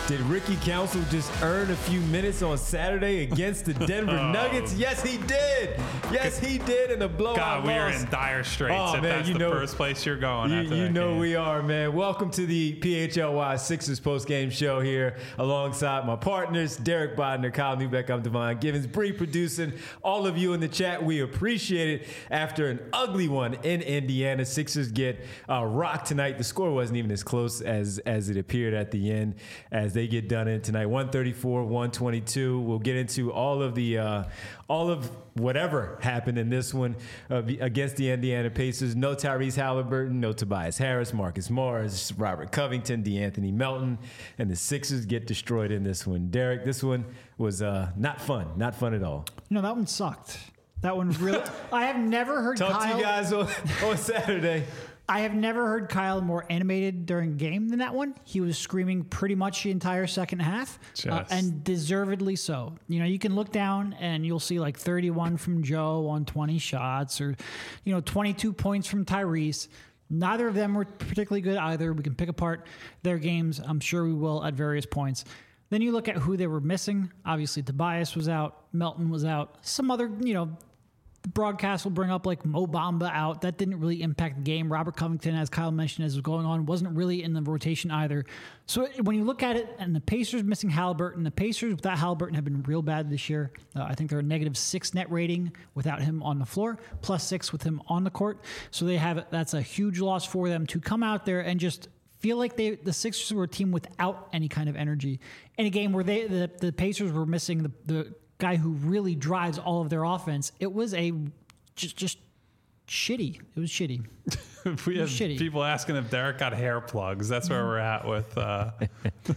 Did Ricky Council just earn a few minutes on Saturday against the Denver Nuggets? Yes, he did. Yes, he did in a blowout God, we are loss. in dire straits if man, that's the first place you're going. You know we are, man. Welcome to the PHLY Sixers postgame show here alongside my partners, Derek Bodner, Kyle Newbeck, I'm Devon Givens, Bree producing. All of you in the chat, we appreciate it. After an ugly one in Indiana, Sixers get rocked tonight. The score wasn't even as close as it appeared at the end as they get done in tonight. 134-122. We'll get into all of whatever happened in this one against the Indiana Pacers. No Tyrese Halliburton, no Tobias Harris, Marcus Morris, Robert Covington, DeAnthony Melton, and the Sixers get destroyed in this one. Derek, this one was not fun. Not fun at all. No, that one sucked. That one really... I have never heard Talk Kyle... to you guys on Saturday. I have never heard Kyle more animated during a game than that one. He was screaming pretty much the entire second half, and deservedly so. You know, you can look down and you'll see like 31 from Joe on 20 shots, or 22 points from Tyrese. Neither of them were particularly good either. We can pick apart their games. I'm sure we will at various points. Then you look at who they were missing. Obviously, Tobias was out. Melton was out. Some other, the broadcast will bring up like Mo Bamba out. That didn't really impact the game. Robert Covington, as Kyle mentioned, as was going on, wasn't really in the rotation either. So when you look at it, and the Pacers missing Halliburton, the Pacers without Halliburton have been real bad this year. I think they're a -6 net rating without him on the floor, +6 with him on the court. So that's a huge loss for them to come out there and just feel like the Sixers were a team without any kind of energy in a game where the Pacers were missing the guy who really drives all of their offense. It was just shitty. It was shitty. We have people asking if Derek got hair plugs. That's where we're at with. That's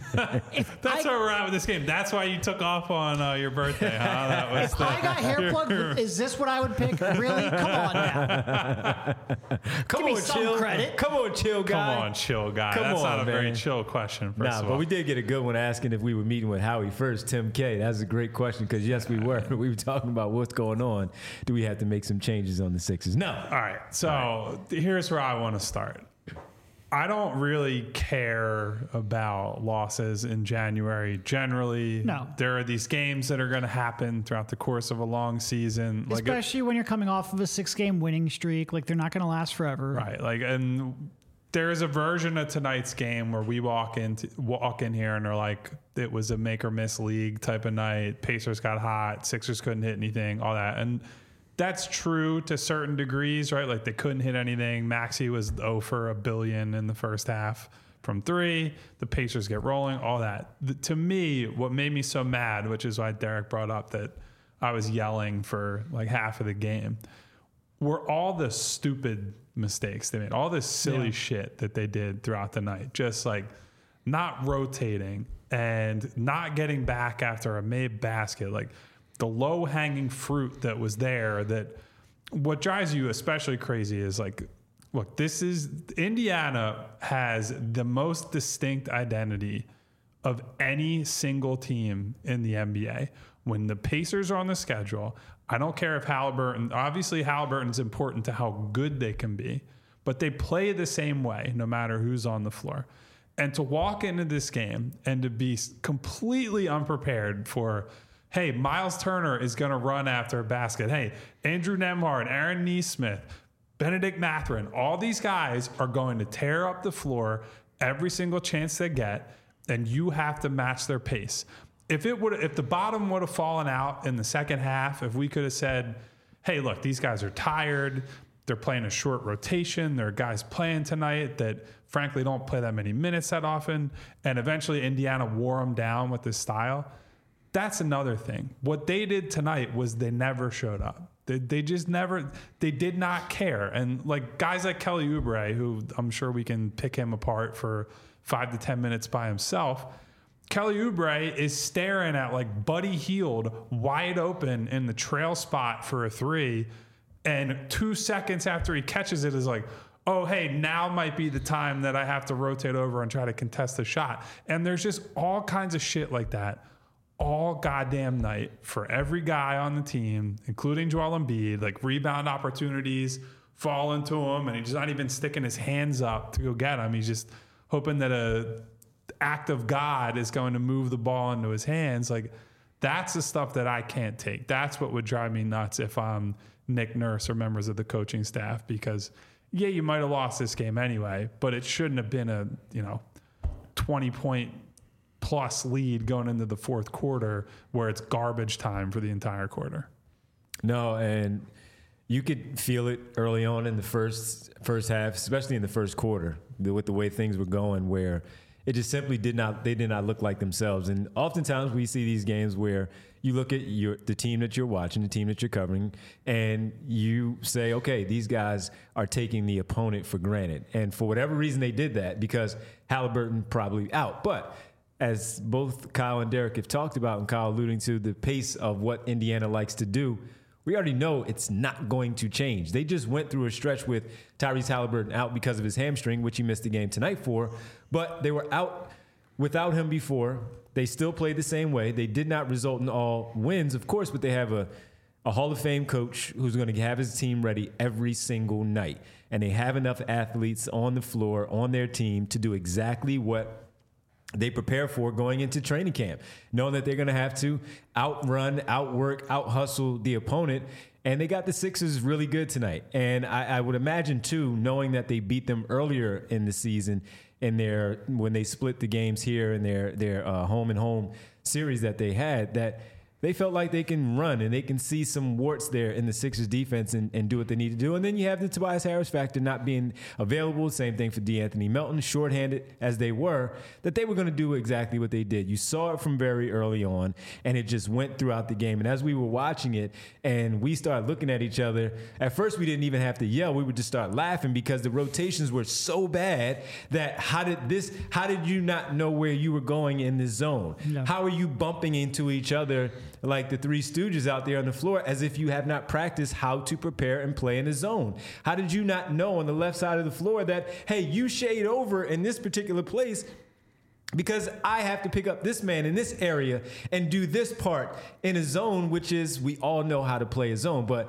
where we're at with this game. That's why you took off on your birthday, huh? That was if I got hair plugs, is this what I would pick? Really? Come on now. Give me some credit. Come on, chill guy. Come on, chill guy. That's not a very chill question. First of all. But we did get a good one asking if we were meeting with Howie first. Tim K. That's a great question because yes, we were. We were talking about what's going on. Do we have to make some changes on the Sixers? No. All right. So here's where I want to start. I don't really care about losses in January. Generally, no. There are these games that are going to happen throughout the course of a long season. Especially when you're coming off of a 6-game winning streak. Like, they're not going to last forever. Right. And there is a version of tonight's game where we walk in here and they're like, it was a make or miss league type of night. Pacers got hot. Sixers couldn't hit anything, all that. And that's true to certain degrees, right? Like they couldn't hit anything. Maxey was 0 for a billion in the first half from 3. The Pacers get rolling, all that. To me, what made me so mad, which is why Derek brought up that I was yelling for like half of the game, were all the stupid mistakes they made, all this silly shit that they did throughout the night. Just like not rotating and not getting back after a made basket. Like, the low-hanging fruit that was there, that what drives you especially crazy is like, look, Indiana has the most distinct identity of any single team in the NBA. When the Pacers are on the schedule, I don't care if Halliburton's important to how good they can be, but they play the same way no matter who's on the floor. And to walk into this game and to be completely unprepared for, hey, Miles Turner is going to run after a basket. Hey, Andrew Nembhard, Aaron Nesmith, Benedict Mathurin, all these guys are going to tear up the floor every single chance they get, and you have to match their pace. If the bottom would have fallen out in the second half, if we could have said, hey, look, these guys are tired, they're playing a short rotation, there are guys playing tonight that frankly don't play that many minutes that often, and eventually Indiana wore them down with this style, that's another thing. What they did tonight was they never showed up. They did not care. And like guys like Kelly Oubre, who I'm sure we can pick him apart for 5 to 10 minutes by himself. Kelly Oubre is staring at like Buddy Hield wide open in the trail spot for a 3. And 2 seconds after he catches it is like, oh, hey, now might be the time that I have to rotate over and try to contest the shot. And there's just all kinds of shit like that all goddamn night for every guy on the team, including Joel Embiid. Like rebound opportunities fall into him, and he's not even sticking his hands up to go get them. He's just hoping that a act of God is going to move the ball into his hands. Like, that's the stuff that I can't take. That's what would drive me nuts if I'm Nick Nurse or members of the coaching staff, because yeah, you might have lost this game anyway, but it shouldn't have been a 20-point plus lead going into the fourth quarter where it's garbage time for the entire quarter. No, and you could feel it early on in the first half, especially in the first quarter, with the way things were going, where it just simply did not look like themselves. And oftentimes we see these games where you look at the team that you're watching, the team that you're covering, and you say, okay, these guys are taking the opponent for granted. And for whatever reason they did that, because Halliburton probably out. But as both Kyle and Derek have talked about, and Kyle alluding to the pace of what Indiana likes to do, we already know it's not going to change. They just went through a stretch with Tyrese Halliburton out because of his hamstring, which he missed the game tonight for. But they were out without him before. They still played the same way. They did not result in all wins, of course, but they have a Hall of Fame coach who's going to have his team ready every single night. And they have enough athletes on the floor, on their team, to do exactly what they prepare for going into training camp, knowing that they're going to have to outrun, outwork, out-hustle the opponent. And they got the Sixers really good tonight. And I would imagine, too, knowing that they beat them earlier in the season when they split the games here in their home-and-home series that they had, that they felt like they can run and they can see some warts there in the Sixers defense and do what they need to do. And then you have the Tobias Harris factor not being available. Same thing for DeAnthony Melton, shorthanded as they were, that they were going to do exactly what they did. You saw it from very early on, and it just went throughout the game. And as we were watching it and we started looking at each other, at first we didn't even have to yell. We would just start laughing because the rotations were so bad that how did you not know where you were going in this zone? No. How are you bumping into each other like the Three Stooges out there on the floor, as if you have not practiced how to prepare and play in a zone? How did you not know on the left side of the floor that, hey, you shade over in this particular place because I have to pick up this man in this area and do this part in a zone, which is, we all know how to play a zone, but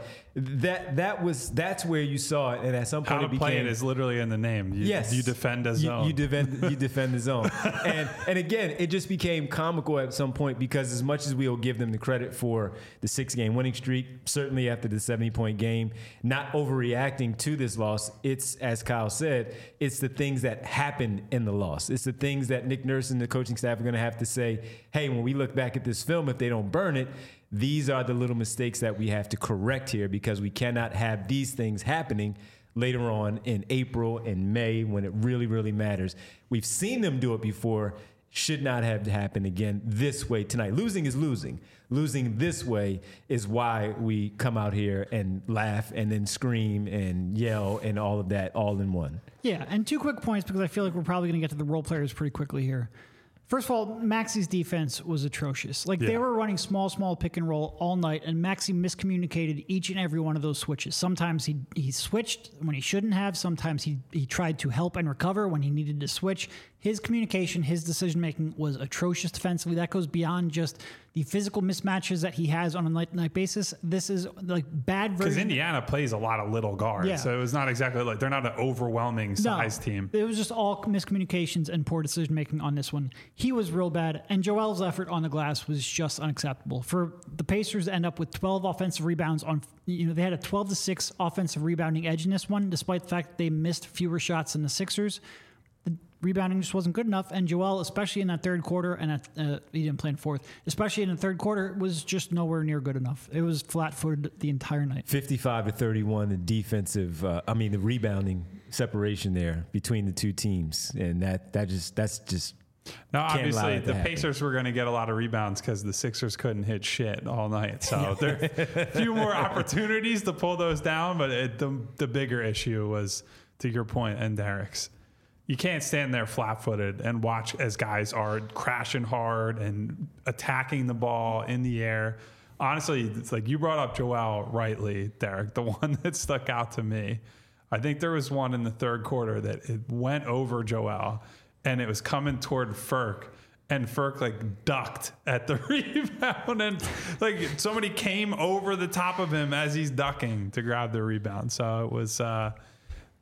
that's where you saw it. And at some point, how to play it is literally in the name. You defend a zone. You defend the zone. And again, it just became comical at some point, because as much as we'll give them the credit for the 6-game winning streak, certainly after the 70-point game, not overreacting to this loss, it's, as Kyle said, it's the things that happened in the loss. It's the things that Nick Nurse and the coaching staff are going to have to say, hey, when we look back at this film, if they don't burn it, these are the little mistakes that we have to correct here, because we cannot have these things happening later on in April and May when it really, really matters. We've seen them do it before. Should not have to happen again this way tonight. Losing is losing. Losing this way is why we come out here and laugh and then scream and yell and all of that all in one. Yeah, and 2 quick points, because I feel like we're probably going to get to the role players pretty quickly here. First of all, Maxi's defense was atrocious. They were running small pick and roll all night, and Maxi miscommunicated each and every one of those switches. Sometimes he switched when he shouldn't have. Sometimes he tried to help and recover when he needed to switch. His communication, his decision-making was atrocious defensively. That goes beyond just the physical mismatches that he has on a night-to-night basis. This is like bad version. Because Indiana plays a lot of little guards, so it was not exactly like they're not an overwhelming size team. It was just all miscommunications and poor decision-making on this one. He was real bad, and Joel's effort on the glass was just unacceptable. For the Pacers to end up with 12 offensive rebounds they had a 12-6 offensive rebounding edge in this one, despite the fact that they missed fewer shots than the Sixers. Rebounding just wasn't good enough, and Joel, especially in that third quarter, and he didn't play in fourth, especially in the third quarter, was just nowhere near good enough. It was flat-footed the entire night. 55-31, the defensive, the rebounding separation there between the two teams, and that's just. Now, obviously, the Pacers were going to get a lot of rebounds because the Sixers couldn't hit shit all night. So there are a few more opportunities to pull those down, but the bigger issue was, to your point and Derek's, you can't stand there flat-footed and watch as guys are crashing hard and attacking the ball in the air. Honestly, it's like you brought up Joel rightly, Derek, the one that stuck out to me. I think there was one in the third quarter that it went over Joel, and it was coming toward Furk, and Furk ducked at the rebound, and somebody came over the top of him as he's ducking to grab the rebound. So it was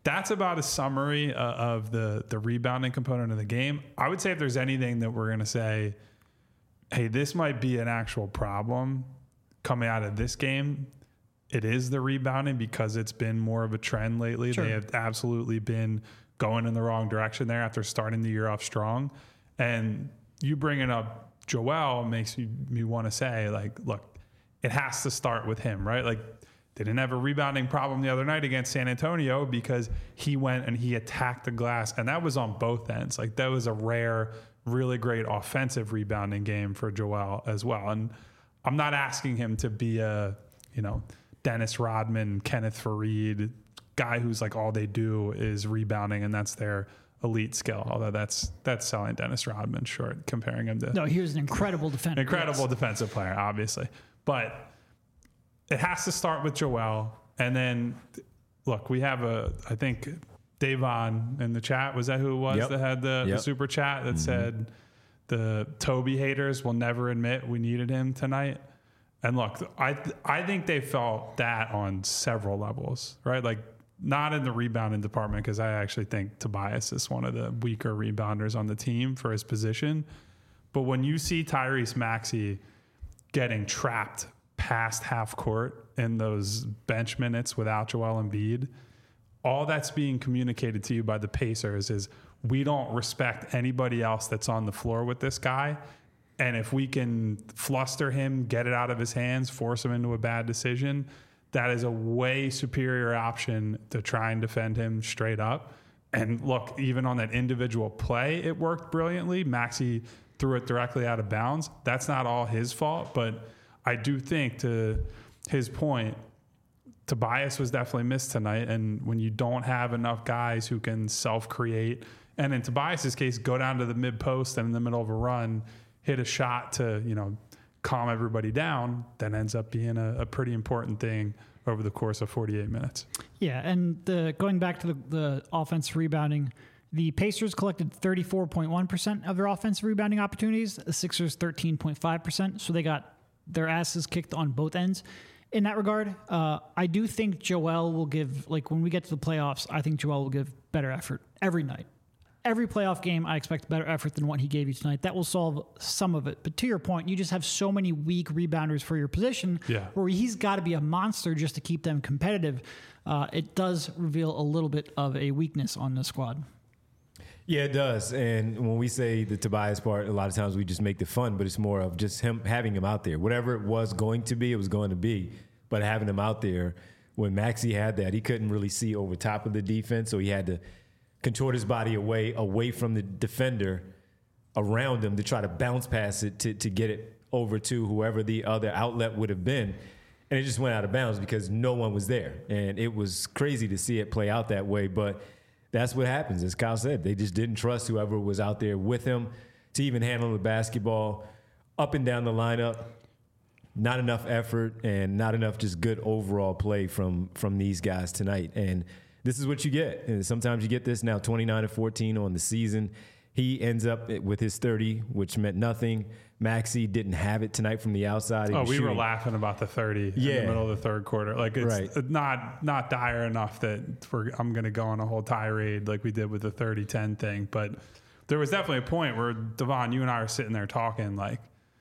that's about a summary of the rebounding component of the game. I would say if there's anything that we're going to say, hey, this might be an actual problem coming out of this game, it is the rebounding, because it's been more of a trend lately. Sure. They have absolutely been going in the wrong direction there after starting the year off strong. And you bringing up Joel makes me want to say, like, look, it has to start with him, right? Like, they didn't have a rebounding problem the other night against San Antonio because he went and he attacked the glass, and that was on both ends. Like, that was a rare, really great offensive rebounding game for Joel as well. And I'm not asking him to be a, Dennis Rodman, Kenneth Faried guy who's like all they do is rebounding and that's their elite skill. Although that's selling Dennis Rodman short, comparing him to. No, he was an incredible defender. Defensive player, obviously. But it has to start with Joel. And then, look, we have I think Davon in the chat, was that who it was that had the super chat that said the Toby haters will never admit we needed him tonight? And look, I think they felt that on several levels, right? Like, not in the rebounding department, because I actually think Tobias is one of the weaker rebounders on the team for his position. But when you see Tyrese Maxey getting trapped past half court in those bench minutes without Joel Embiid, all that's being communicated to you by the Pacers is, we don't respect anybody else that's on the floor with this guy. And if we can fluster him, get it out of his hands, force him into a bad decision, that is a way superior option to try and defend him straight up. And look, even on that individual play, it worked brilliantly. Maxey threw it directly out of bounds. That's not all his fault, but I do think, to his point, Tobias was definitely missed tonight. And when you don't have enough guys who can self-create, and in Tobias's case, go down to the mid-post and in the middle of a run, hit a shot to, calm everybody down, that ends up being a pretty important thing over the course of 48 minutes. Yeah, and going back to the offensive rebounding, the Pacers collected 34.1% of their offensive rebounding opportunities, the Sixers 13.5%, so they got their asses kicked on both ends. In that regard, I do think Joel will give, like, when we get to the playoffs, I think Joel will give better effort every night. Every playoff game, I expect better effort than what he gave you tonight. That will solve some of it. But to your point, you just have so many weak rebounders for your position where he's got to be a monster just to keep them competitive. It does reveal a little bit of a weakness on the squad. Yeah, it does. And when we say the Tobias part, a lot of times we just make the fun, but it's more of just having him out there. Whatever it was going to be, it was going to be. But having him out there, when Maxey had that, he couldn't really see over top of the defense, so he had to contort his body away from the defender around him to try to bounce past it to get it over to whoever the other outlet would have been. And it just went out of bounds because no one was there. And it was crazy to see it play out that way. But that's what happens. As Kyle said, they just didn't trust whoever was out there with him to even handle the basketball up and down the lineup. Not enough effort and not enough just good overall play from these guys tonight. And this is what you get. And sometimes you get this now, 29-14 on the season. He ends up with his 30, which meant nothing. Maxey didn't have it tonight from the outside. We were laughing about the 30 in the middle of the third quarter. Like, it's not dire enough that I'm going to go on a whole tirade like we did with the 30-10 thing. But there was definitely a point where, Devon, you and I are sitting there talking like,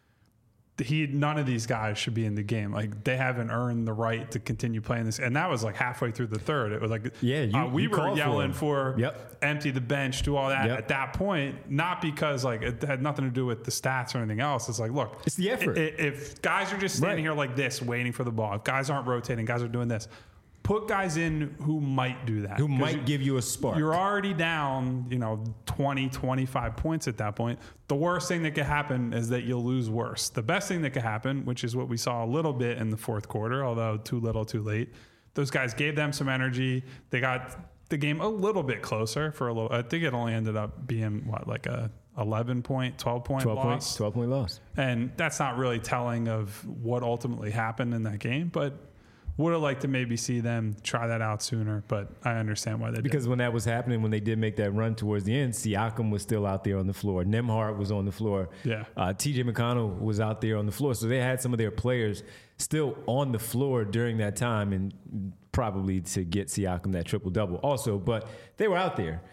none of these guys should be in the game. Like, they haven't earned the right to continue playing this. And that was like halfway through the third. It was like, we were yelling for empty the bench, do all that at that point, not because like it had nothing to do with the stats or anything else. It's like, look, it's the effort. If guys are just standing here like this, waiting for the ball, if guys aren't rotating, guys are doing this, put guys in who might do that. Who might give you a spark. You're already down, 20, 25 points at that point. The worst thing that could happen is that you'll lose worse. The best thing that could happen, which is what we saw a little bit in the fourth quarter, although too little, too late, those guys gave them some energy. They got the game a little bit closer for a little. I think it only ended up being, like a 11-point, 12-point loss. 12-point loss. And that's not really telling of what ultimately happened in that game, but would have liked to maybe see them try that out sooner, but I understand why they did. Because when that was happening, when they did make that run towards the end, Siakam was still out there on the floor. Nembhard was on the floor. Yeah. TJ McConnell was out there on the floor. So they had some of their players still on the floor during that time. And probably to get Siakam that triple-double also, but they were out there.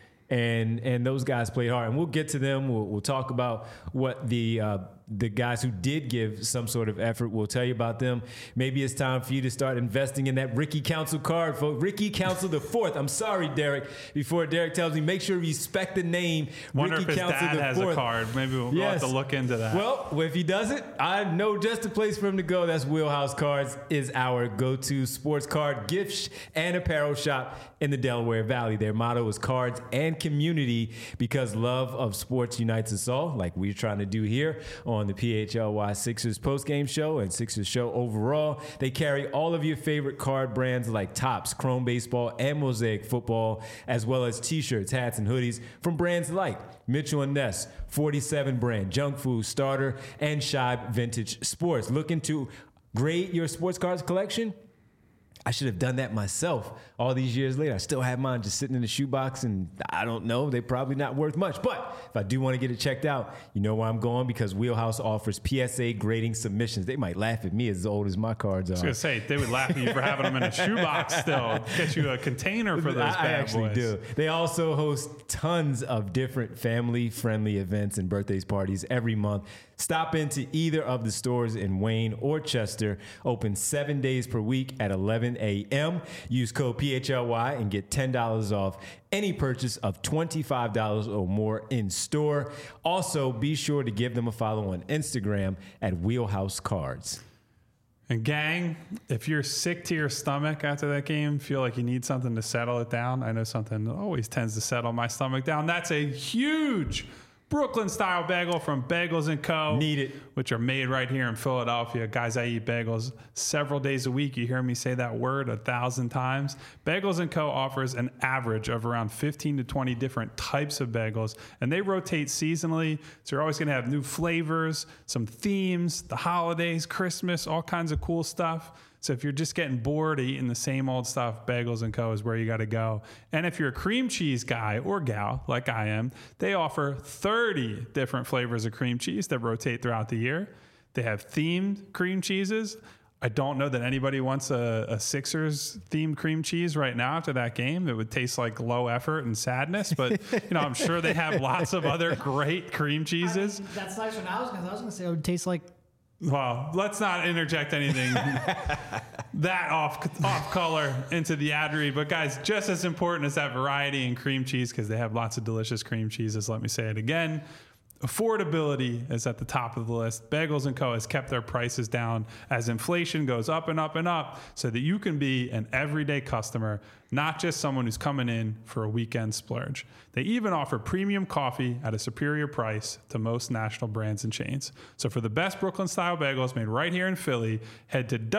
And those guys played hard, and we'll get to them. We'll talk about what the guys who did give some sort of effort. We'll tell you about them. Maybe it's time for you to start investing in that Ricky Council card, folks. Ricky Council the Fourth. I'm sorry, Derek. Before Derek tells me, make sure you respect the name. Wonder Ricky if his Council dad the has Fourth. a card. Maybe we'll have to look into that. Well, if he doesn't, I know just the place for him to go. That's Wheelhouse Cards is our go-to sports card gift and apparel shop in the Delaware Valley. Their motto is cards and community, because love of sports unites us all, like we're trying to do here on the PHLY Sixers postgame show and Sixers show overall. They carry all of your favorite card brands like Topps, Chrome Baseball, and Mosaic Football, as well as t-shirts, hats, and hoodies from brands like Mitchell & Ness, 47 brand, Junk Food, Starter, and Shibe Vintage Sports. Looking to grade your sports cards collection? I should have done that myself all these years later. I still have mine just sitting in the shoebox, and I don't know, they're probably not worth much. But if I do want to get it checked out, you know where I'm going, because Wheelhouse offers PSA grading submissions. They might laugh at me as old as my cards are. I was going to say, they would laugh at you for having them in a shoebox still. Get you a container for those I bad actually boys. do. They also host tons of different family-friendly events and birthdays parties every month. Stop into either of the stores in Wayne or Chester. Open 7 days per week at 11 a.m. Use code PHLY and get $10 off any purchase of $25 or more in store. Also, be sure to give them a follow on Instagram at Wheelhouse Cards. And gang, if you're sick to your stomach after that game, feel like you need something to settle it down. I know something that always tends to settle my stomach down. That's a huge Brooklyn-style bagel from Bagels & Co. Need it. Which are made right here in Philadelphia. Guys, I eat bagels several days a week. You hear me say that word 1,000 times. Bagels & Co. offers an average of around 15 to 20 different types of bagels, and they rotate seasonally, so you're always going to have new flavors, some themes, the holidays, Christmas, all kinds of cool stuff. So if you're just getting bored of eating the same old stuff, Bagels & Co. is where you got to go. And if you're a cream cheese guy or gal, like I am, they offer 30 different flavors of cream cheese that rotate throughout the year. They have themed cream cheeses. I don't know that anybody wants a Sixers themed cream cheese right now after that game. It would taste like low effort and sadness, but I'm sure they have lots of other great cream cheeses. That's nice. When I was going to say it would taste like. Well, let's not interject anything that off color into the ad read. But guys, just as important as that variety in cream cheese, because they have lots of delicious cream cheeses. Let me say it again. Affordability is at the top of the list. Bagels & Co. has kept their prices down as inflation goes up and up and up, so that you can be an everyday customer, not just someone who's coming in for a weekend splurge. They even offer premium coffee at a superior price to most national brands and chains. So for the best Brooklyn-style bagels made right here in Philly, head to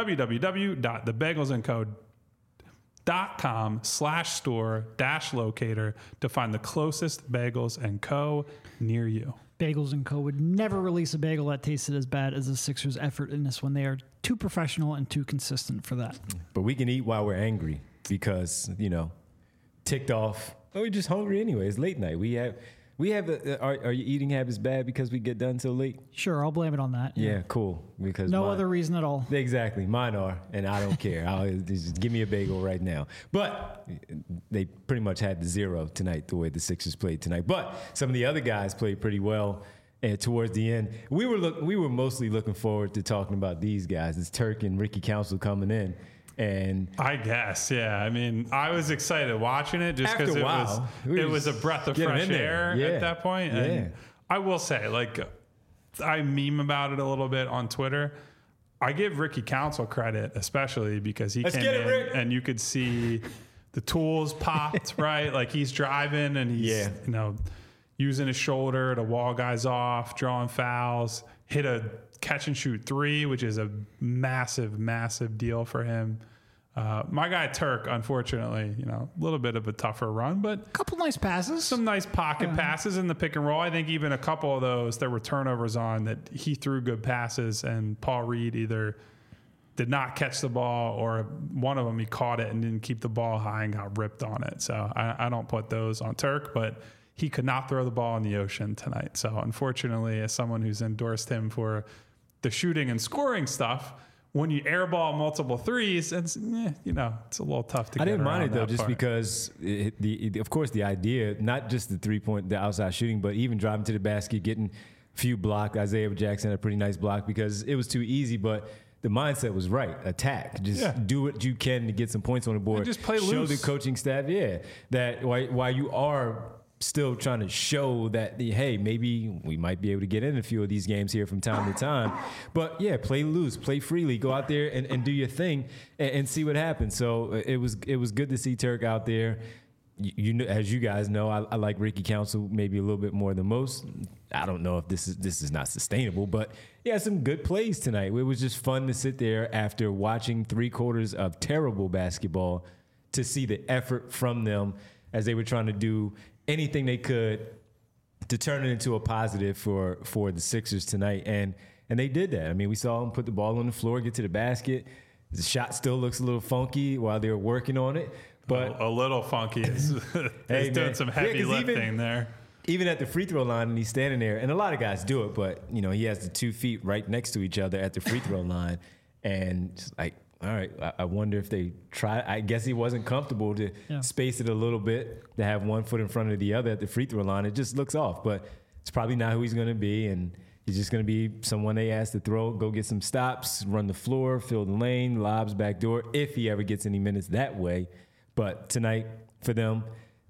www.thebagelsandco.com/store-locator to find the closest Bagels & Co. near you. Bagels & Co. would never release a bagel that tasted as bad as the Sixers' effort in this one. They are too professional and too consistent for that. But we can eat while we're angry because, ticked off. Oh, we're just hungry anyway. It's late night. Are your eating habits bad because we get done so late? Sure, I'll blame it on that. Yeah, cool. Because no other reason at all. Exactly. Mine are, and I don't care. I'll just give me a bagel right now. But they pretty much had the zero tonight, the way the Sixers played tonight. But some of the other guys played pretty well. And towards the end, we were mostly looking forward to talking about these guys. It's Turk and Ricky Council coming in. And I guess, yeah. I mean, I was excited watching it just because it was a breath of fresh air at that point. And I will say, I meme about it a little bit on Twitter. I give Ricky Council credit, especially because he came in and you could see the tools popped, right? Like he's driving and he's using his shoulder to wall guys off, drawing fouls, hit a catch and shoot three, which is a massive, massive deal for him. My guy Turk, unfortunately, a little bit of a tougher run, but a couple nice passes, some nice pocket passes in the pick and roll. I think even a couple of those there were turnovers on that he threw good passes, and Paul Reed either did not catch the ball or one of them he caught it and didn't keep the ball high and got ripped on it. So I don't put those on Turk, but he could not throw the ball in the ocean tonight. So unfortunately, as someone who's endorsed him for the shooting and scoring stuff, when you airball multiple threes, it's it's a little tough to. I didn't mind it though, just part. because of course the idea, not just the outside shooting, but even driving to the basket, getting a few blocked. Isaiah Jackson had a pretty nice block because it was too easy, but the mindset was right. Attack, just do what you can to get some points on the board. And just play Show loose. the coaching staff, that while you are still trying to show that, hey, maybe we might be able to get in a few of these games here from time to time. But, play loose, play freely, go out there and do your thing and see what happens. So it was good to see Turk out there. You know, as you guys know, I like Ricky Council maybe a little bit more than most. I don't know if this is not sustainable, but he had some good plays tonight. It was just fun to sit there after watching 3 quarters of terrible basketball to see the effort from them as they were trying to do anything they could to turn it into a positive for the Sixers tonight. And they did that. I mean, we saw them put the ball on the floor, get to the basket. The shot still looks a little funky while they were working on it. But a little funky. He's doing some heavy lifting there. Even at the free throw line, and he's standing there, and a lot of guys do it, but he has the 2 feet right next to each other at the free throw line, and just like, all right, I wonder if they try. I guess he wasn't comfortable to space it a little bit, to have one foot in front of the other at the free throw line. It just looks off, but it's probably not who he's going to be, and he's just going to be someone they ask to go get some stops, run the floor, fill the lane, lobs backdoor, if he ever gets any minutes that way. But tonight, for them,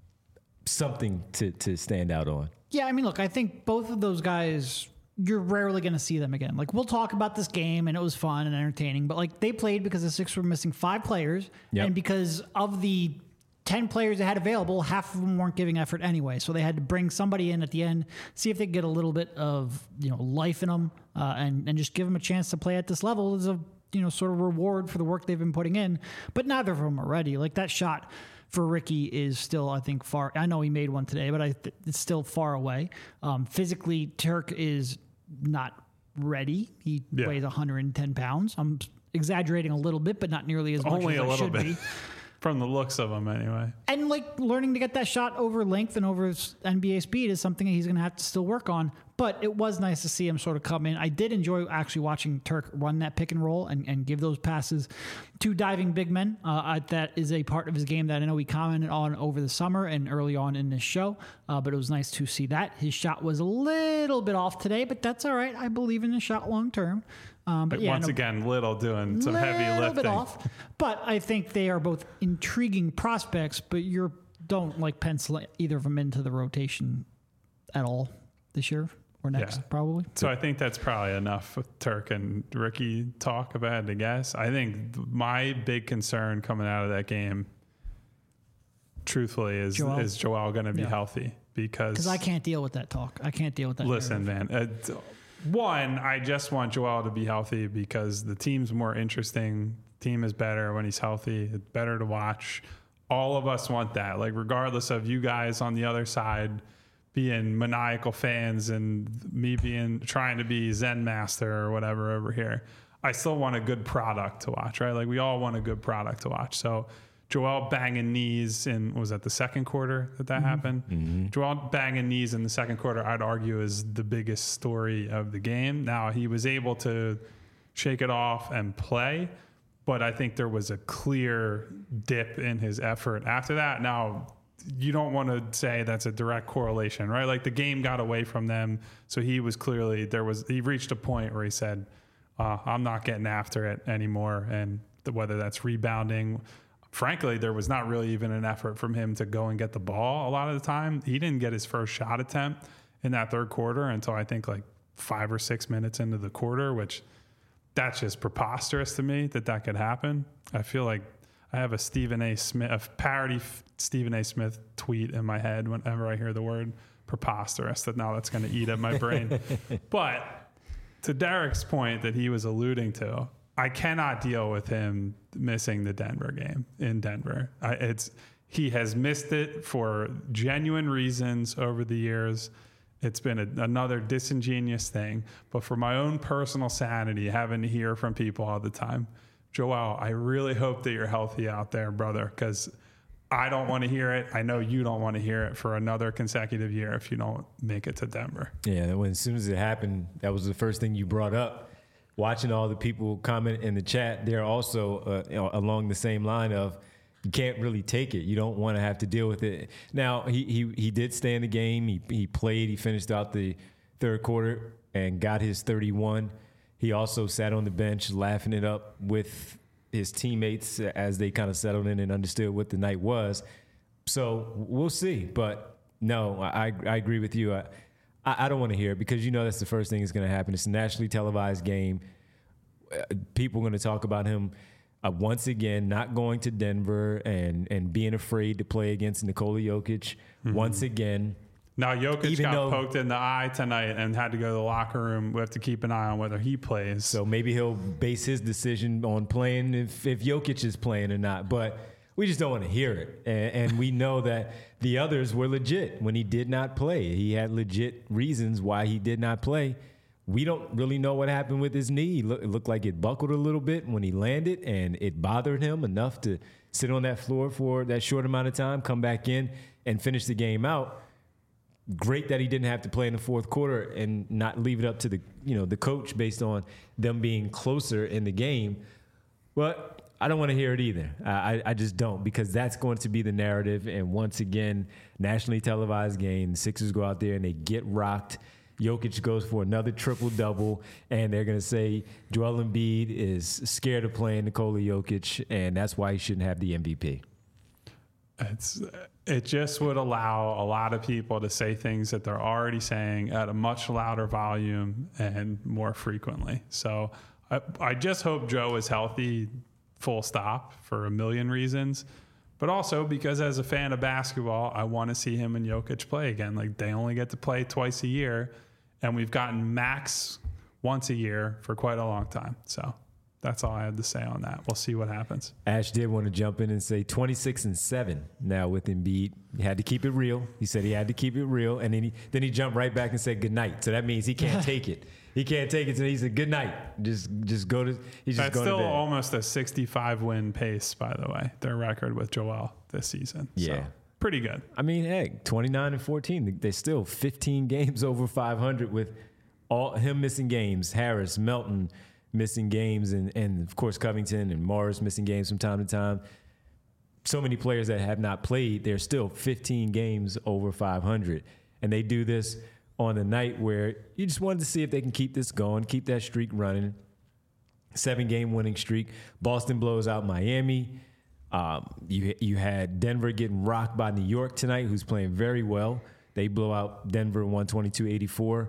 something to stand out on. Yeah, I mean, look, I think both of those guys, you're rarely going to see them again. Like, we'll talk about this game, and it was fun and entertaining, but, like, they played because the Sixers were missing 5 players, and because of the 10 players they had available, half of them weren't giving effort anyway. So they had to bring somebody in at the end, see if they could get a little bit of, life in them, and just give them a chance to play at this level as a, sort of reward for the work they've been putting in. But neither of them are ready. Like, that shot for Ricky is still, I think, far. I know he made one today, but it's still far away. Physically, Turk is not ready. He weighs 110 pounds. I'm exaggerating a little bit, but not nearly as much Only as a I little should bit. be. From the looks of him, anyway. And, like, learning to get that shot over length and over NBA speed is something that he's going to have to still work on. But it was nice to see him sort of come in. I did enjoy actually watching Turk run that pick and roll and give those passes to diving big men. That is a part of his game that I know we commented on over the summer and early on in this show. But it was nice to see that. His shot was a little bit off today, but that's all right. I believe in the shot long term. But once again, Little doing some heavy lifting. A little bit off. But I think they are both intriguing prospects, but don't pencil either of them into the rotation at all this year or next, probably. So I think that's probably enough with Turk and Ricky talk, if I had to guess. I think my big concern coming out of that game, truthfully, is Joel going to be healthy? Because I can't deal with that talk. I can't deal with that. Listen, narrative. Man. One, I just want Joel to be healthy because the team's more interesting. Team is better when he's healthy. It's better to watch. All of us want that. Like, regardless of you guys on the other side being maniacal fans and me trying to be Zen master or whatever over here, I still want a good product to watch, right? Like, we all want a good product to watch. So Joel banging knees was that the second quarter that happened? Mm-hmm. Joel banging knees in the second quarter, I'd argue, is the biggest story of the game. Now, he was able to shake it off and play, but I think there was a clear dip in his effort after that. Now, you don't want to say that's a direct correlation, right? Like, the game got away from them, so he was clearly, he reached a point where he said, I'm not getting after it anymore, and whether that's rebounding. Frankly, there was not really even an effort from him to go and get the ball a lot of the time. He didn't get his first shot attempt in that third quarter until I think like 5 or 6 minutes into the quarter, which that's just preposterous to me that could happen. I feel like I have a parody Stephen A. Smith tweet in my head whenever I hear the word preposterous, that's going to eat at my brain. But to Derek's point that he was alluding to, I cannot deal with him missing the Denver game in Denver. He has missed it for genuine reasons over the years. It's been another disingenuous thing. But for my own personal sanity, having to hear from people all the time, Joel, I really hope that you're healthy out there, brother, because I don't want to hear it. I know you don't want to hear it for another consecutive year if you don't make it to Denver. Yeah, as soon as it happened, that was the first thing you brought up. watching all the people comment in the chat, they're also along the same line of you can't really take it. You don't want to have to deal with it. Now, he did stay in the game. He played. He finished out the third quarter and got his 31. He also sat on the bench laughing it up with his teammates as they kind of settled in and understood what the night was. So we'll see. But no, I agree with you. I don't want to hear it because you know that's the first thing that's going to happen. It's a nationally televised game. People are going to talk about him once again not going to Denver and being afraid to play against Nikola Jokic once again. Now, Jokic got poked in the eye tonight and had to go to the locker room. We have to keep an eye on whether he plays. So maybe he'll base his decision on playing if Jokic is playing or not. But we just don't want to hear it. And we know that the others were legit when he did not play. He had legit reasons why he did not play. We don't really know what happened with his knee. It looked like it buckled a little bit when he landed, and it bothered him enough to sit on that floor for that short amount of time, come back in, and finish the game out. Great that he didn't have to play in the fourth quarter and not leave it up to the coach based on them being closer in the game. But I don't want to hear it either. I just don't, because that's going to be the narrative. And once again, nationally televised game, the Sixers go out there and they get rocked. Jokic goes for another triple-double, and they're going to say Joel Embiid is scared of playing Nikola Jokic, and that's why he shouldn't have the MVP. It just would allow a lot of people to say things that they're already saying at a much louder volume and more frequently. So I just hope Joe is healthy, full stop, for a million reasons. But also because as a fan of basketball, I want to see him and Jokic play again. Like, they only get to play twice a year, and we've gotten max once a year for quite a long time. So that's all I had to say on that. We'll see what happens. Ash did want to jump in and say 26-7 now with Embiid. He had to keep it real. He said he had to keep it real. And then he jumped right back and said good night. So that means he can't take it. He can't take it. So he said good night. Just go to. He's just going to bed. That's still almost a 65 win pace, by the way. Their record with Joel this season. Yeah. So, pretty good. I mean, hey, 29-14. They're still 15 games over 500 with all him missing games. Harris, Melton missing games, and of course Covington and Morris missing games from time to time. So many players that have not played, they're still 15 games over 500. And they do this on a night where you just wanted to see if they can keep this going, keep that streak running. 7-game winning streak. Boston blows out Miami. You had Denver getting rocked by New York tonight, who's playing very well. They blow out Denver 122-84.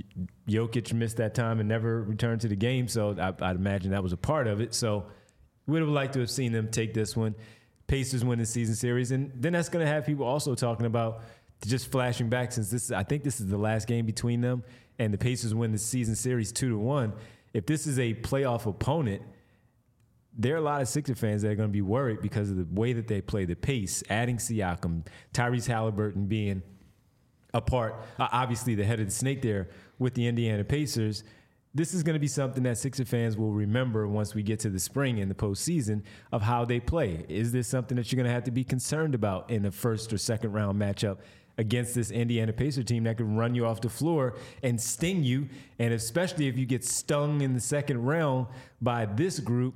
Jokic missed that time and never returned to the game, so I'd imagine that was a part of it. So we would have liked to have seen them take this one. Pacers win the season series, and then that's going to have people also talking about, just flashing back, since I think this is the last game between them, and the Pacers win the season series 2-1. If this is a playoff opponent, there are a lot of Sixer fans that are going to be worried because of the way that they play, the pace, adding Siakam, Tyrese Halliburton being a part, obviously the head of the snake there with the Indiana Pacers. This is going to be something that Sixer fans will remember once we get to the spring and the postseason of how they play. Is this something that you're going to have to be concerned about in the first or second round matchup against this Indiana Pacer team that can run you off the floor and sting you? And especially if you get stung in the second round by this group,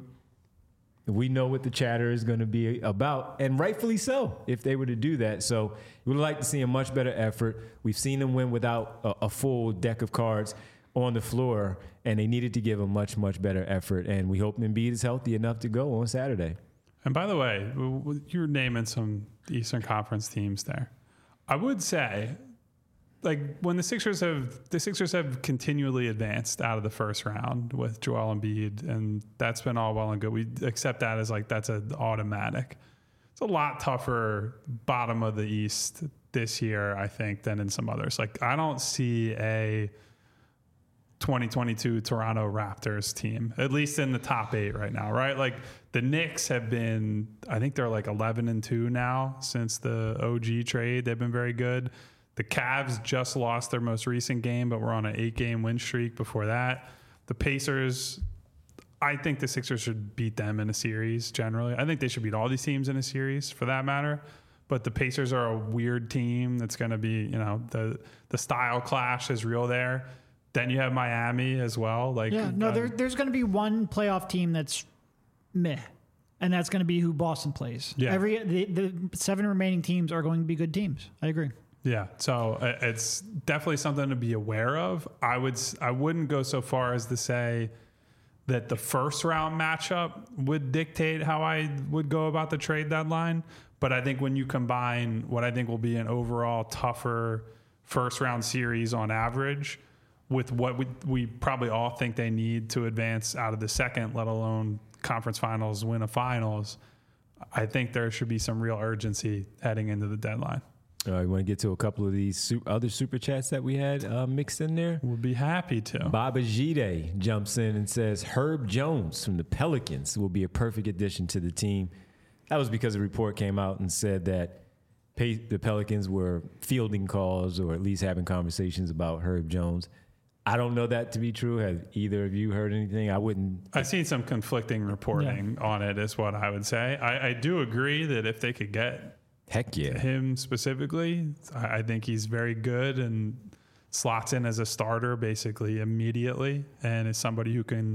we know what the chatter is going to be about, and rightfully so if they were to do that. So we would like to see a much better effort. We've seen them win without a full deck of cards on the floor, and they needed to give a much, much better effort. And we hope Embiid is healthy enough to go on Saturday. And by the way, you're naming some Eastern Conference teams there. I would say, like, when the Sixers have continually advanced out of the first round with Joel Embiid, and that's been all well and good. We accept that as like that's an automatic. It's a lot tougher bottom of the East this year, I think, than in some others. Like, I don't see a 2022 Toronto Raptors team, at least in the top 8 right now, right? Like, the Knicks have been, I think they're like 11-2 now since the OG trade. They've been very good. The Cavs just lost their most recent game, but we're on an 8-game win streak before that. The Pacers, I think the Sixers should beat them in a series generally. I think they should beat all these teams in a series for that matter. But the Pacers are a weird team that's going to be, the style clash is real there. Then you have Miami as well. Like, there's going to be one playoff team that's meh, and that's going to be who Boston plays. Yeah. The 7 remaining teams are going to be good teams. I agree. Yeah, so it's definitely something to be aware of. I wouldn't go so far as to say that the first round matchup would dictate how I would go about the trade deadline. But I think when you combine what I think will be an overall tougher first round series on average with what we probably all think they need to advance out of the second, let alone conference finals, win a finals, I think there should be some real urgency heading into the deadline. You want to get to a couple of these other super chats that we had mixed in there? We'll be happy to. Baba Jide jumps in and says, Herb Jones from the Pelicans will be a perfect addition to the team. That was because a report came out and said that the Pelicans were fielding calls or at least having conversations about Herb Jones. I don't know that to be true. Have either of you heard anything? I've seen some conflicting reporting on it, is what I would say. I do agree that if they could get him specifically, I think he's very good and slots in as a starter basically immediately, and is somebody who can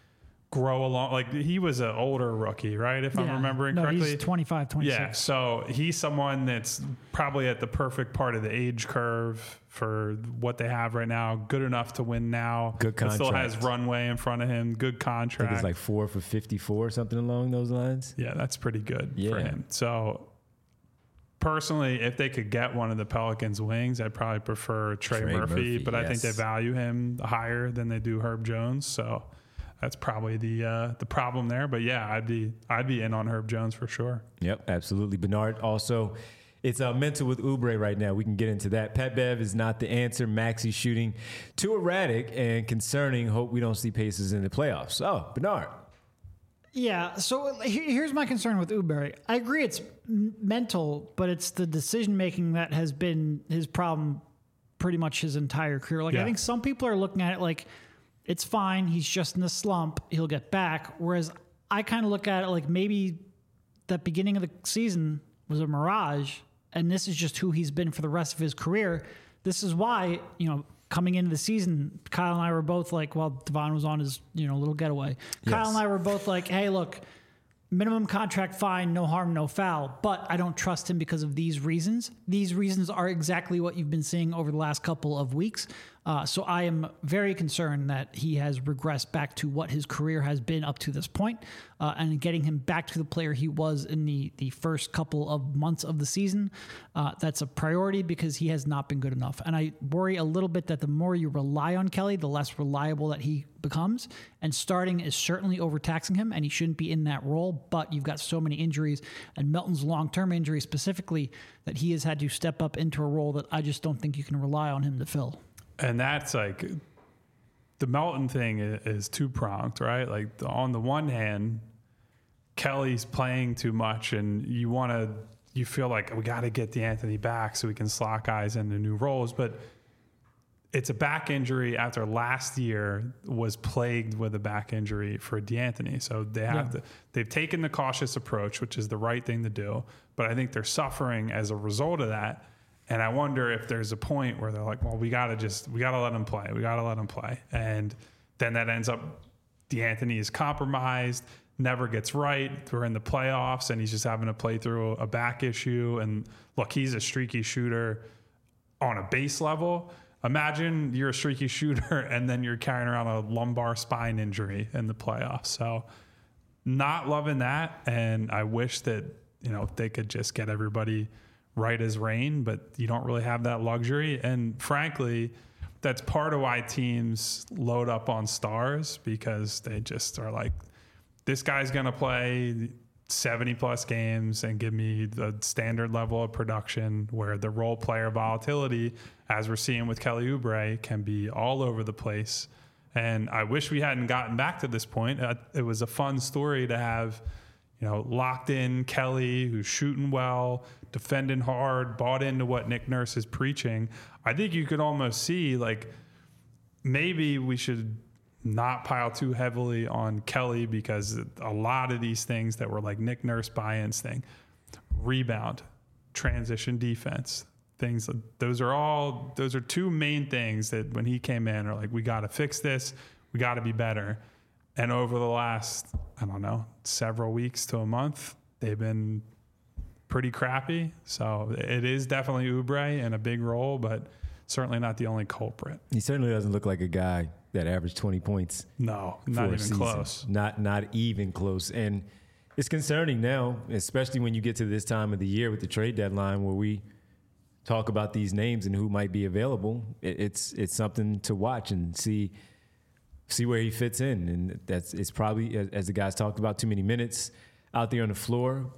grow along. Like, he was an older rookie, right? If I'm remembering correctly. He's 25, 26. Yeah, so he's someone that's probably at the perfect part of the age curve for what they have right now. Good enough to win now. Good contract. Still has runway in front of him. Good contract. I think it's like 4 for 54 or something along those lines. Yeah, that's pretty good for him. So personally, if they could get one of the Pelicans' wings, I'd probably prefer Trey Murphy, but I think they value him higher than they do Herb Jones. So that's probably the problem there. But yeah, I'd be in on Herb Jones for sure. Yep, absolutely. Bernard, also, it's mental with Oubre right now. We can get into that. Pat Bev is not the answer. Maxey shooting too erratic and concerning. Hope we don't see Pacers in the playoffs. Oh, Bernard. Yeah, so here's my concern with Oubre. I agree it's mental, but it's the decision-making that has been his problem pretty much his entire career. I think some people are looking at it like, it's fine, he's just in a slump, he'll get back. Whereas I kind of look at it like maybe that beginning of the season was a mirage, and this is just who he's been for the rest of his career. This is why, coming into the season, Kyle and I were both like, Devon was on his, little getaway. Yes. Kyle and I were both like, hey, look, minimum contract, fine, no harm, no foul, but I don't trust him because of these reasons. These reasons are exactly what you've been seeing over the last couple of weeks. So I am very concerned that he has regressed back to what his career has been up to this point, and getting him back to the player he was in the first couple of months of the season. That's a priority because he has not been good enough. And I worry a little bit that the more you rely on Kelly, the less reliable that he becomes. And starting is certainly overtaxing him, and he shouldn't be in that role. But you've got so many injuries, and Melton's long-term injury specifically, that he has had to step up into a role that I just don't think you can rely on him to fill. And that's like, the Melton thing is two-pronged, right? Like, on the one hand, Kelly's playing too much, and you feel like we got to get DeAnthony back so we can slot guys into new roles. But it's a back injury after last year was plagued with a back injury for DeAnthony. So they've taken the cautious approach, which is the right thing to do. But I think they're suffering as a result of that. And I wonder if there's a point where they're like, well, we got to let him play. We got to let him play. And then that ends up, DeAnthony is compromised, never gets right. We're in the playoffs, and he's just having to play through a back issue. And look, he's a streaky shooter on a base level. Imagine you're a streaky shooter and then you're carrying around a lumbar spine injury in the playoffs. So not loving that. And I wish that, they could just get everybody right as rain, but you don't really have that luxury. And frankly, that's part of why teams load up on stars, because they just are like, this guy's going to play 70 plus games and give me the standard level of production, where the role player volatility, as we're seeing with Kelly Oubre, can be all over the place. And I wish we hadn't gotten back to this point. It was a fun story to have, locked in Kelly, who's shooting well, defending hard, bought into what Nick Nurse is preaching. I think you could almost see, like, maybe we should not pile too heavily on Kelly, because a lot of these things that were like Nick Nurse buy-ins thing, rebound, transition defense, things. Those are two main things that when he came in are like, we got to fix this. We got to be better. And over the last, I don't know, several weeks to a month, they've been pretty crappy. So it is definitely Oubre in a big role, but certainly not the only culprit. He certainly doesn't look like a guy that averaged 20 points. No, not even close. Not even close. And it's concerning now, especially when you get to this time of the year with the trade deadline where we talk about these names and who might be available. It's something to watch and see where he fits in. And it's probably, as the guys talked about, too many minutes out there on the floor.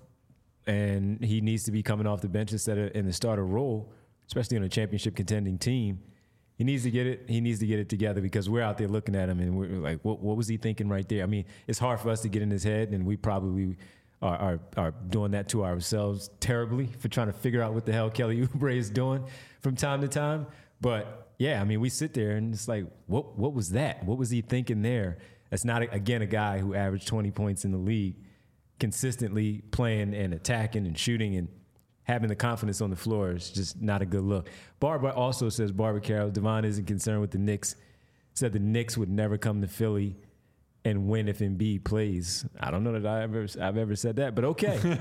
And he needs to be coming off the bench instead of in the starter role, especially on a championship contending team. He needs to get it. He needs to get it together because we're out there looking at him and we're like, what was he thinking right there? I mean, it's hard for us to get in his head, and we probably are doing that to ourselves terribly for trying to figure out what the hell Kelly Oubre is doing from time to time. But yeah, I mean, we sit there and it's like, what was that? What was he thinking there? That's not, again, a guy who averaged 20 points in the league, consistently playing and attacking and shooting and having the confidence on the floor is just not a good look. Barbara also says, Barbara Carroll, Devon isn't concerned with the Knicks. Said the Knicks would never come to Philly and win if Embiid plays. I don't know that I've ever said that, but okay.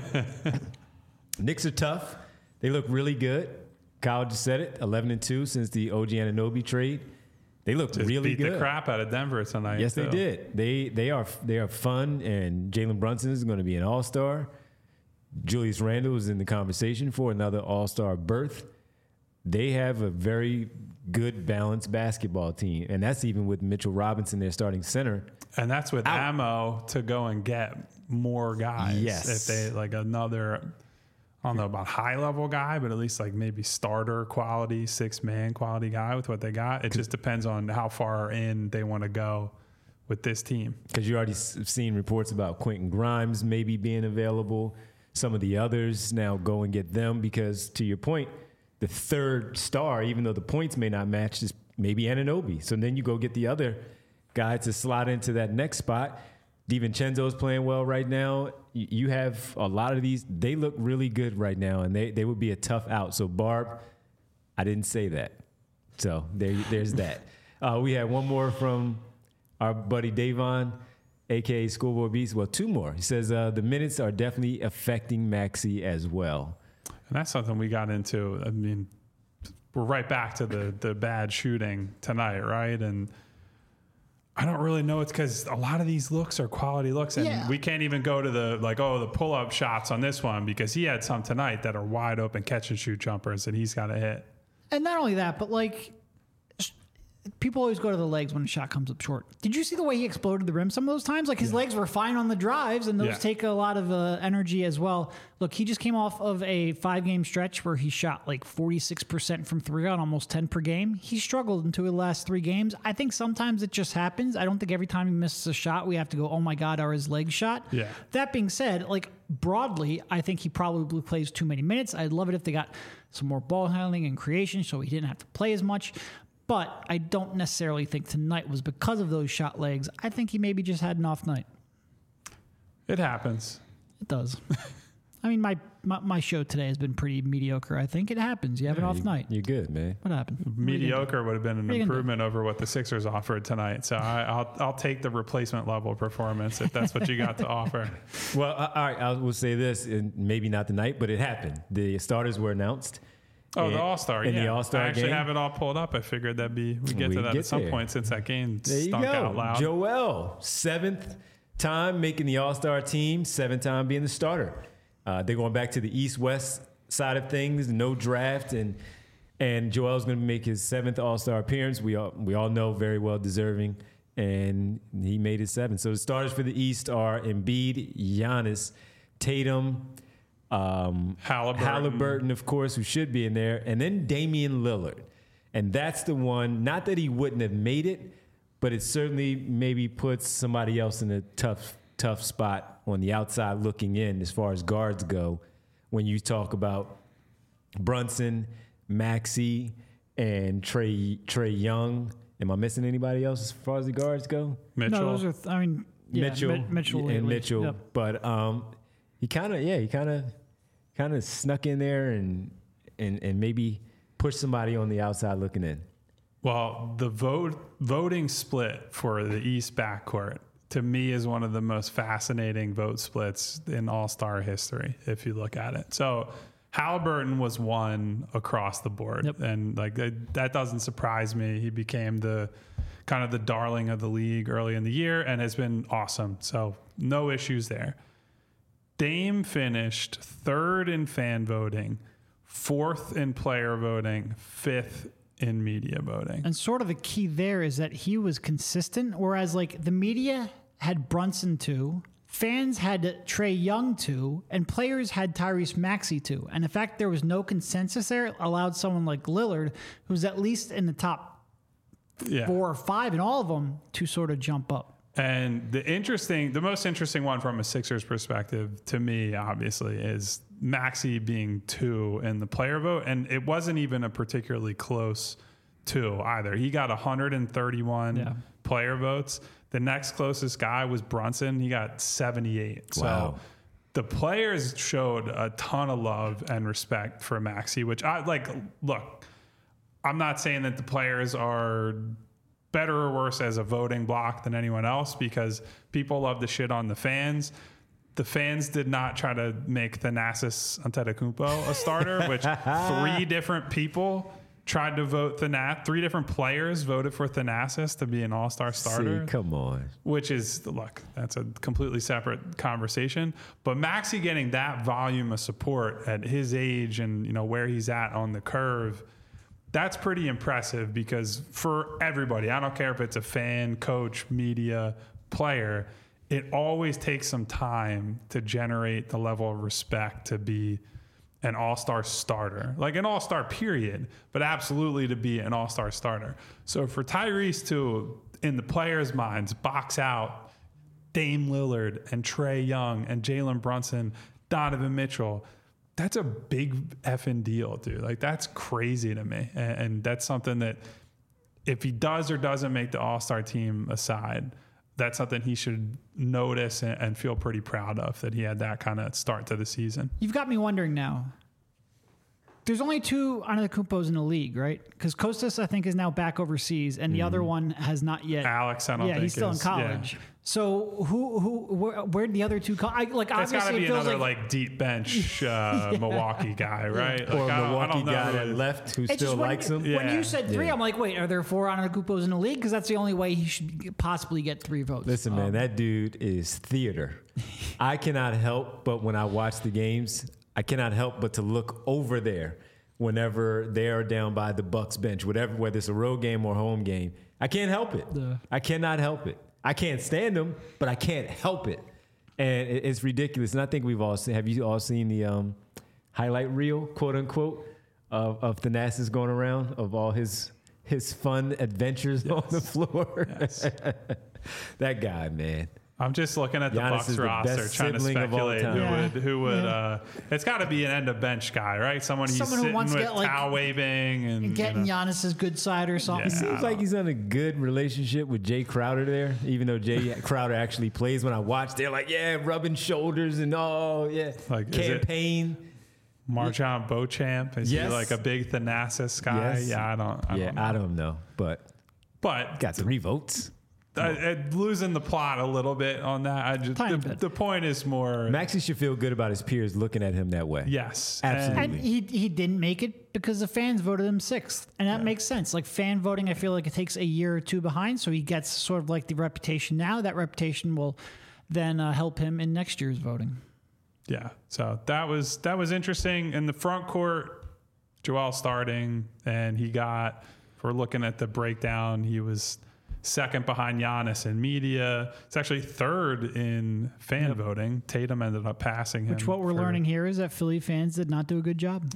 Knicks are tough. They look really good. Kyle just said it, 11-2 since the OG Anunoby trade. They look really good. Beat the crap out of Denver tonight. Yes, they did. They are fun, and Jalen Brunson is going to be an all-star. Julius Randle is in the conversation for another all-star berth. They have a very good, balanced basketball team, and that's even with Mitchell Robinson, their starting center. And that's with ammo to go and get more guys. Yes. If they like another, I don't know about high-level guy, but at least like maybe starter quality, six-man quality guy with what they got. It just depends on how far in they want to go with this team. Because you already seen reports about Quentin Grimes maybe being available. Some of the others now go and get them because, to your point, the third star, even though the points may not match, is maybe Anunoby. So then you go get the other guy to slot into that next spot. DiVincenzo's playing well right now. You have a lot of these. They look really good right now, and they would be a tough out. So, Barb, I didn't say that. So there's that. We had one more from our buddy Davon, a.k.a. Schoolboy Beast. Well, two more. He says the minutes are definitely affecting Maxey as well. And that's something we got into. I mean, we're right back to the bad shooting tonight, right? And I don't really know. It's because a lot of these looks are quality looks. And we can't even go to the pull-up shots on this one because he had some tonight that are wide open catch-and-shoot jumpers that he's got to hit. And not only that, but like, people always go to the legs when a shot comes up short. Did you see the way he exploded the rim some of those times? Like his legs were fine on the drives, and those take a lot of energy as well. Look, he just came off of a 5-game stretch where he shot like 46% from three on almost 10 per game. He struggled into the last 3 games. I think sometimes it just happens. I don't think every time he misses a shot, we have to go, oh my God, are his legs shot? Yeah. That being said, like broadly, I think he probably plays too many minutes. I'd love it if they got some more ball handling and creation so he didn't have to play as much. But I don't necessarily think tonight was because of those shot legs. I think he maybe just had an off night. It happens. It does. I mean, my show today has been pretty mediocre. I think it happens. You have an off night. You're good, man. What happened? Mediocre would have been an improvement over what the Sixers offered tonight. So I'll take the replacement level performance if that's what you got to offer. Well, all right. I will say this, and maybe not tonight, but it happened. The starters were announced. Oh, the All-Star, in the All-Star I actually game. have it all pulled up. I figured we get to that at some point since that game stunk out loud. Joel, 7th time making the All-Star team, 7th time being the starter. They're going back to the East-West side of things, no draft, and Joel's going to make his 7th All-Star appearance. We all know very well deserving, and he made his 7th. So the starters for the East are Embiid, Giannis, Tatum, Halliburton, of course, who should be in there, and then Damian Lillard. And that's the one, not that he wouldn't have made it, but it certainly maybe puts somebody else in a tough spot on the outside looking in as far as guards go. When you talk about Brunson, Maxey, and Trey Young. Am I missing anybody else as far as the guards go? Mitchell. No, those are, Mitchell and Mitchell. Yep. But he kind of snuck in there and and maybe push somebody on the outside looking in? Well, the voting split for the East backcourt, to me, is one of the most fascinating vote splits in All-Star history, if you look at it. So Halliburton was one across the board. Yep. And like that doesn't surprise me. He became the kind of the darling of the league early in the year and has been awesome. So no issues there. Dame finished 3rd in fan voting, 4th in player voting, 5th in media voting. And sort of the key there is that he was consistent, whereas like the media had Brunson 2, fans had Trae Young 2, and players had Tyrese Maxey 2. And the fact there was no consensus there allowed someone like Lillard, who's at least in the top 4 or 5 in all of them, to sort of jump up. And the most interesting one from a Sixers perspective to me, obviously, is Maxey being 2 in the player vote. And it wasn't even a particularly close 2 either. He got 131 player votes. The next closest guy was Brunson. He got 78. Wow. So the players showed a ton of love and respect for Maxey, which I like. Look, I'm not saying that the players are better or worse as a voting block than anyone else, because people love to shit on the fans. The fans did not try to make Thanasis Antetokounmpo a starter, which 3 different people tried to vote 3 different players voted for Thanasis to be an all-star starter. See, come on. Which is, look, that's a completely separate conversation. But Maxey getting that volume of support at his age and, you know, where he's at on the curve, that's pretty impressive, because for everybody, I don't care if it's a fan, coach, media, player, it always takes some time to generate the level of respect to be an all-star starter, like an all-star period, but absolutely to be an all-star starter. So for Tyrese to, in the players' minds, box out Dame Lillard and Trae Young and Jalen Brunson, Donovan Mitchell, that's a big effing deal, dude. Like, that's crazy to me. And that's something that if he does or doesn't make the all-star team aside, that's something he should notice and feel pretty proud of, that he had that kind of start to the season. You've got me wondering now. There's only 2 Antetokounmpos in the league, right? Because Kostas, I think, is now back overseas, and the other one has not yet. Alex, I don't think. Yeah, he's still in college. Yeah. So where'd the other 2 come? Like, it's got to be another like deep bench Milwaukee guy, right? Or Like, a Milwaukee guy that who left who It's still just likes him. When you said 3, I'm like, wait, are there 4 Antetokounmpos in the league? Because that's the only way he should possibly get 3 votes. Listen, man, that dude is theater. I cannot help but when I watch the games, I cannot help but to look over there whenever they are down by the Bucks bench, whether it's a road game or home game. I can't help it. I cannot help it. I can't stand them, but I can't help it. And it's ridiculous. And I think we've all seen, have you all seen the highlight reel, quote unquote, of Thanasis going around, of all his fun adventures on the floor? Yes. That guy, man. I'm just looking at the Giannis Bucks is the roster, best trying to sibling of all speculate time. who would. It's got to be an end of bench guy, right? Someone who wants sitting to with get, like, towel waving and getting Giannis's good side or something. It seems like he's on a good relationship with Jay Crowder there, even though Jay Crowder actually plays. When I watch, they're like, yeah, rubbing shoulders and Like, campaign. Marjon Beauchamp, is he like a big Thanasis guy? Yes. Yeah, I don't know, but got 3 votes. Losing the plot a little bit on that. The point is more. Maxey should feel good about his peers looking at him that way. Yes, absolutely. And he didn't make it because the fans voted him 6th, and that makes sense. Like, fan voting, I feel like it takes a year or 2 behind, so he gets sort of like the reputation now. That reputation will then help him in next year's voting. Yeah, so that was interesting. In the front court, Joel starting, and he got. If we're looking at the breakdown, he was 2nd behind Giannis in media. It's actually 3rd in fan voting. Tatum ended up passing him. Which what we're learning here is that Philly fans did not do a good job.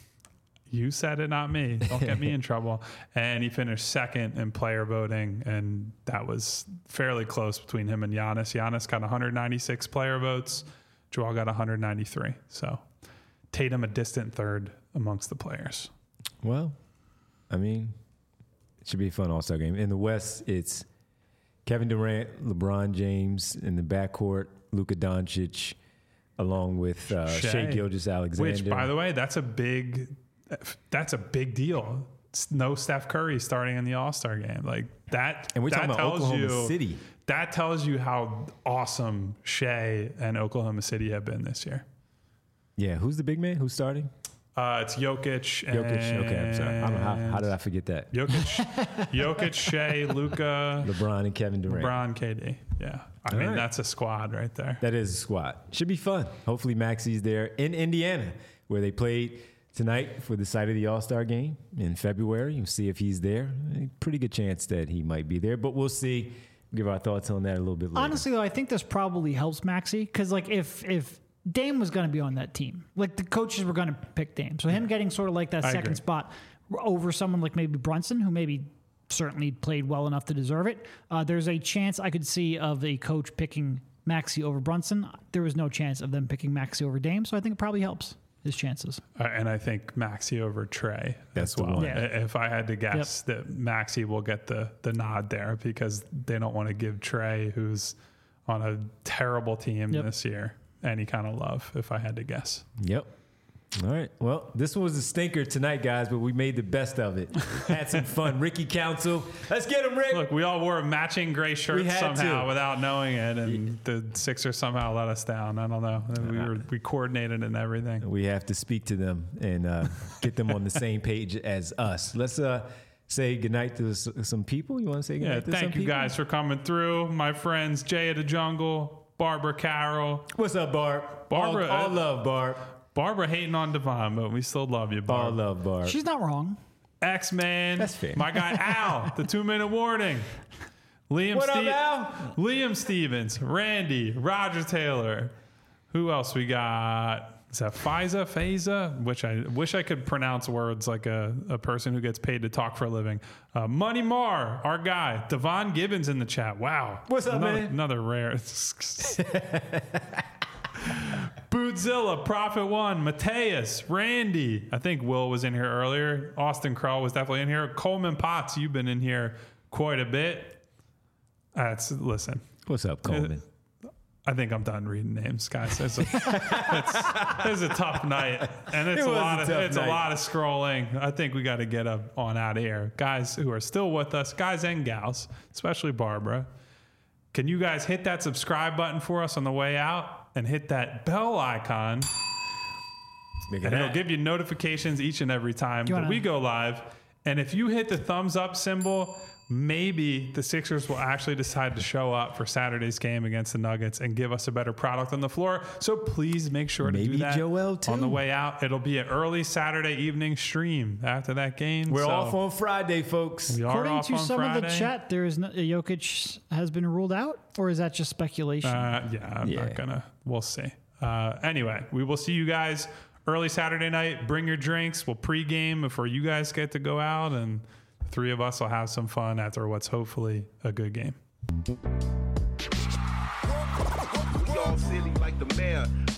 You said it, not me. Don't get me in trouble. And he finished 2nd in player voting, and that was fairly close between him and Giannis. Giannis got 196 player votes. Joel got 193. So Tatum a distant 3rd amongst the players. Well, I mean, it should be a fun All-Star game. In the West, it's Kevin Durant, LeBron James in the backcourt, Luka Doncic, along with Shai Gilgeous-Alexander. Which, by the way, that's a big that's a big deal. No Steph Curry starting in the All-Star game. Like that. And we're talking about Oklahoma City. That tells you how awesome Shea and Oklahoma City have been this year. Yeah. Who's the big man? Who's starting? It's Jokic. Okay, I'm sorry. I don't know how did I forget that? Jokic, Shea, Luka, LeBron, and Kevin Durant. LeBron, KD. Yeah. I mean, that's a squad right there. That is a squad. Should be fun. Hopefully Maxi's there in Indiana, where they played tonight for the site of the All-Star game in February. You'll see if he's there. Pretty good chance that he might be there, but we'll see. Give our thoughts on that a little bit later. Honestly, though, I think this probably helps Maxey because, like, if Dame was going to be on that team, like the coaches were going to pick Dame, so him getting sort of like that second spot over someone like maybe Brunson, who maybe certainly played well enough to deserve it. There's a chance I could see of a coach picking Maxey over Brunson. There was no chance of them picking Maxey over Dame, so I think it probably helps his chances. And I think Maxey over Trey. That's the one. Yeah. If I had to guess, that Maxey will get the nod there because they don't want to give Trey, who's on a terrible team this year, any kind of love, if I had to guess. Yep. All right. Well, this one was a stinker tonight, guys, but we made the best of it. Had some fun. Ricky Council. Let's get him, Rick. Look, we all wore matching gray shirts somehow without knowing it, and the Sixers somehow let us down. I don't know. We coordinated and everything. We have to speak to them and get them on the same page as us. Let's say goodnight to some people. You want to say goodnight to some people? Thank you guys for coming through. My friends, Jay of the Jungle, Barbara Carroll. What's up, Barb? Barbara. All love, Barb. Barbara hating on Devon, but we still love you, Barb. All love, Barb. She's not wrong. X-Man. That's fair. My guy, Al, the 2-minute warning. What up, Al? Liam Stevens, Randy, Roger Taylor. Who else we got? Is that Faiza? Which I wish I could pronounce words like a person who gets paid to talk for a living. Money Marr, our guy. Devon Gibbons in the chat. Wow. What's up, man? Another rare. Bootzilla, Prophet One, Mateus, Randy. I think Will was in here earlier. Austin Krell was definitely in here. Coleman Potts, you've been in here quite a bit. Listen. What's up, Coleman? I think I'm done reading names, guys. It's a tough night, and it's a lot of scrolling. I think we got to get on out of here, guys who are still with us, guys and gals, especially Barbara. Can you guys hit that subscribe button for us on the way out and hit that bell icon? And it'll give you notifications each and every time that we go live. And if you hit the thumbs up symbol, maybe the Sixers will actually decide to show up for Saturday's game against the Nuggets and give us a better product on the floor. So please make sure to do that Joel too. On the way out. It'll be an early Saturday evening stream after that game. We're off on Friday, folks. According to some of the chat, there is Jokic has been ruled out, or is that just speculation? I'm not gonna. We'll see. Anyway, we will see you guys early Saturday night. Bring your drinks. We'll pregame before you guys get to go out, and the three of us will have some fun after what's hopefully a good game. We all silly like the mayor.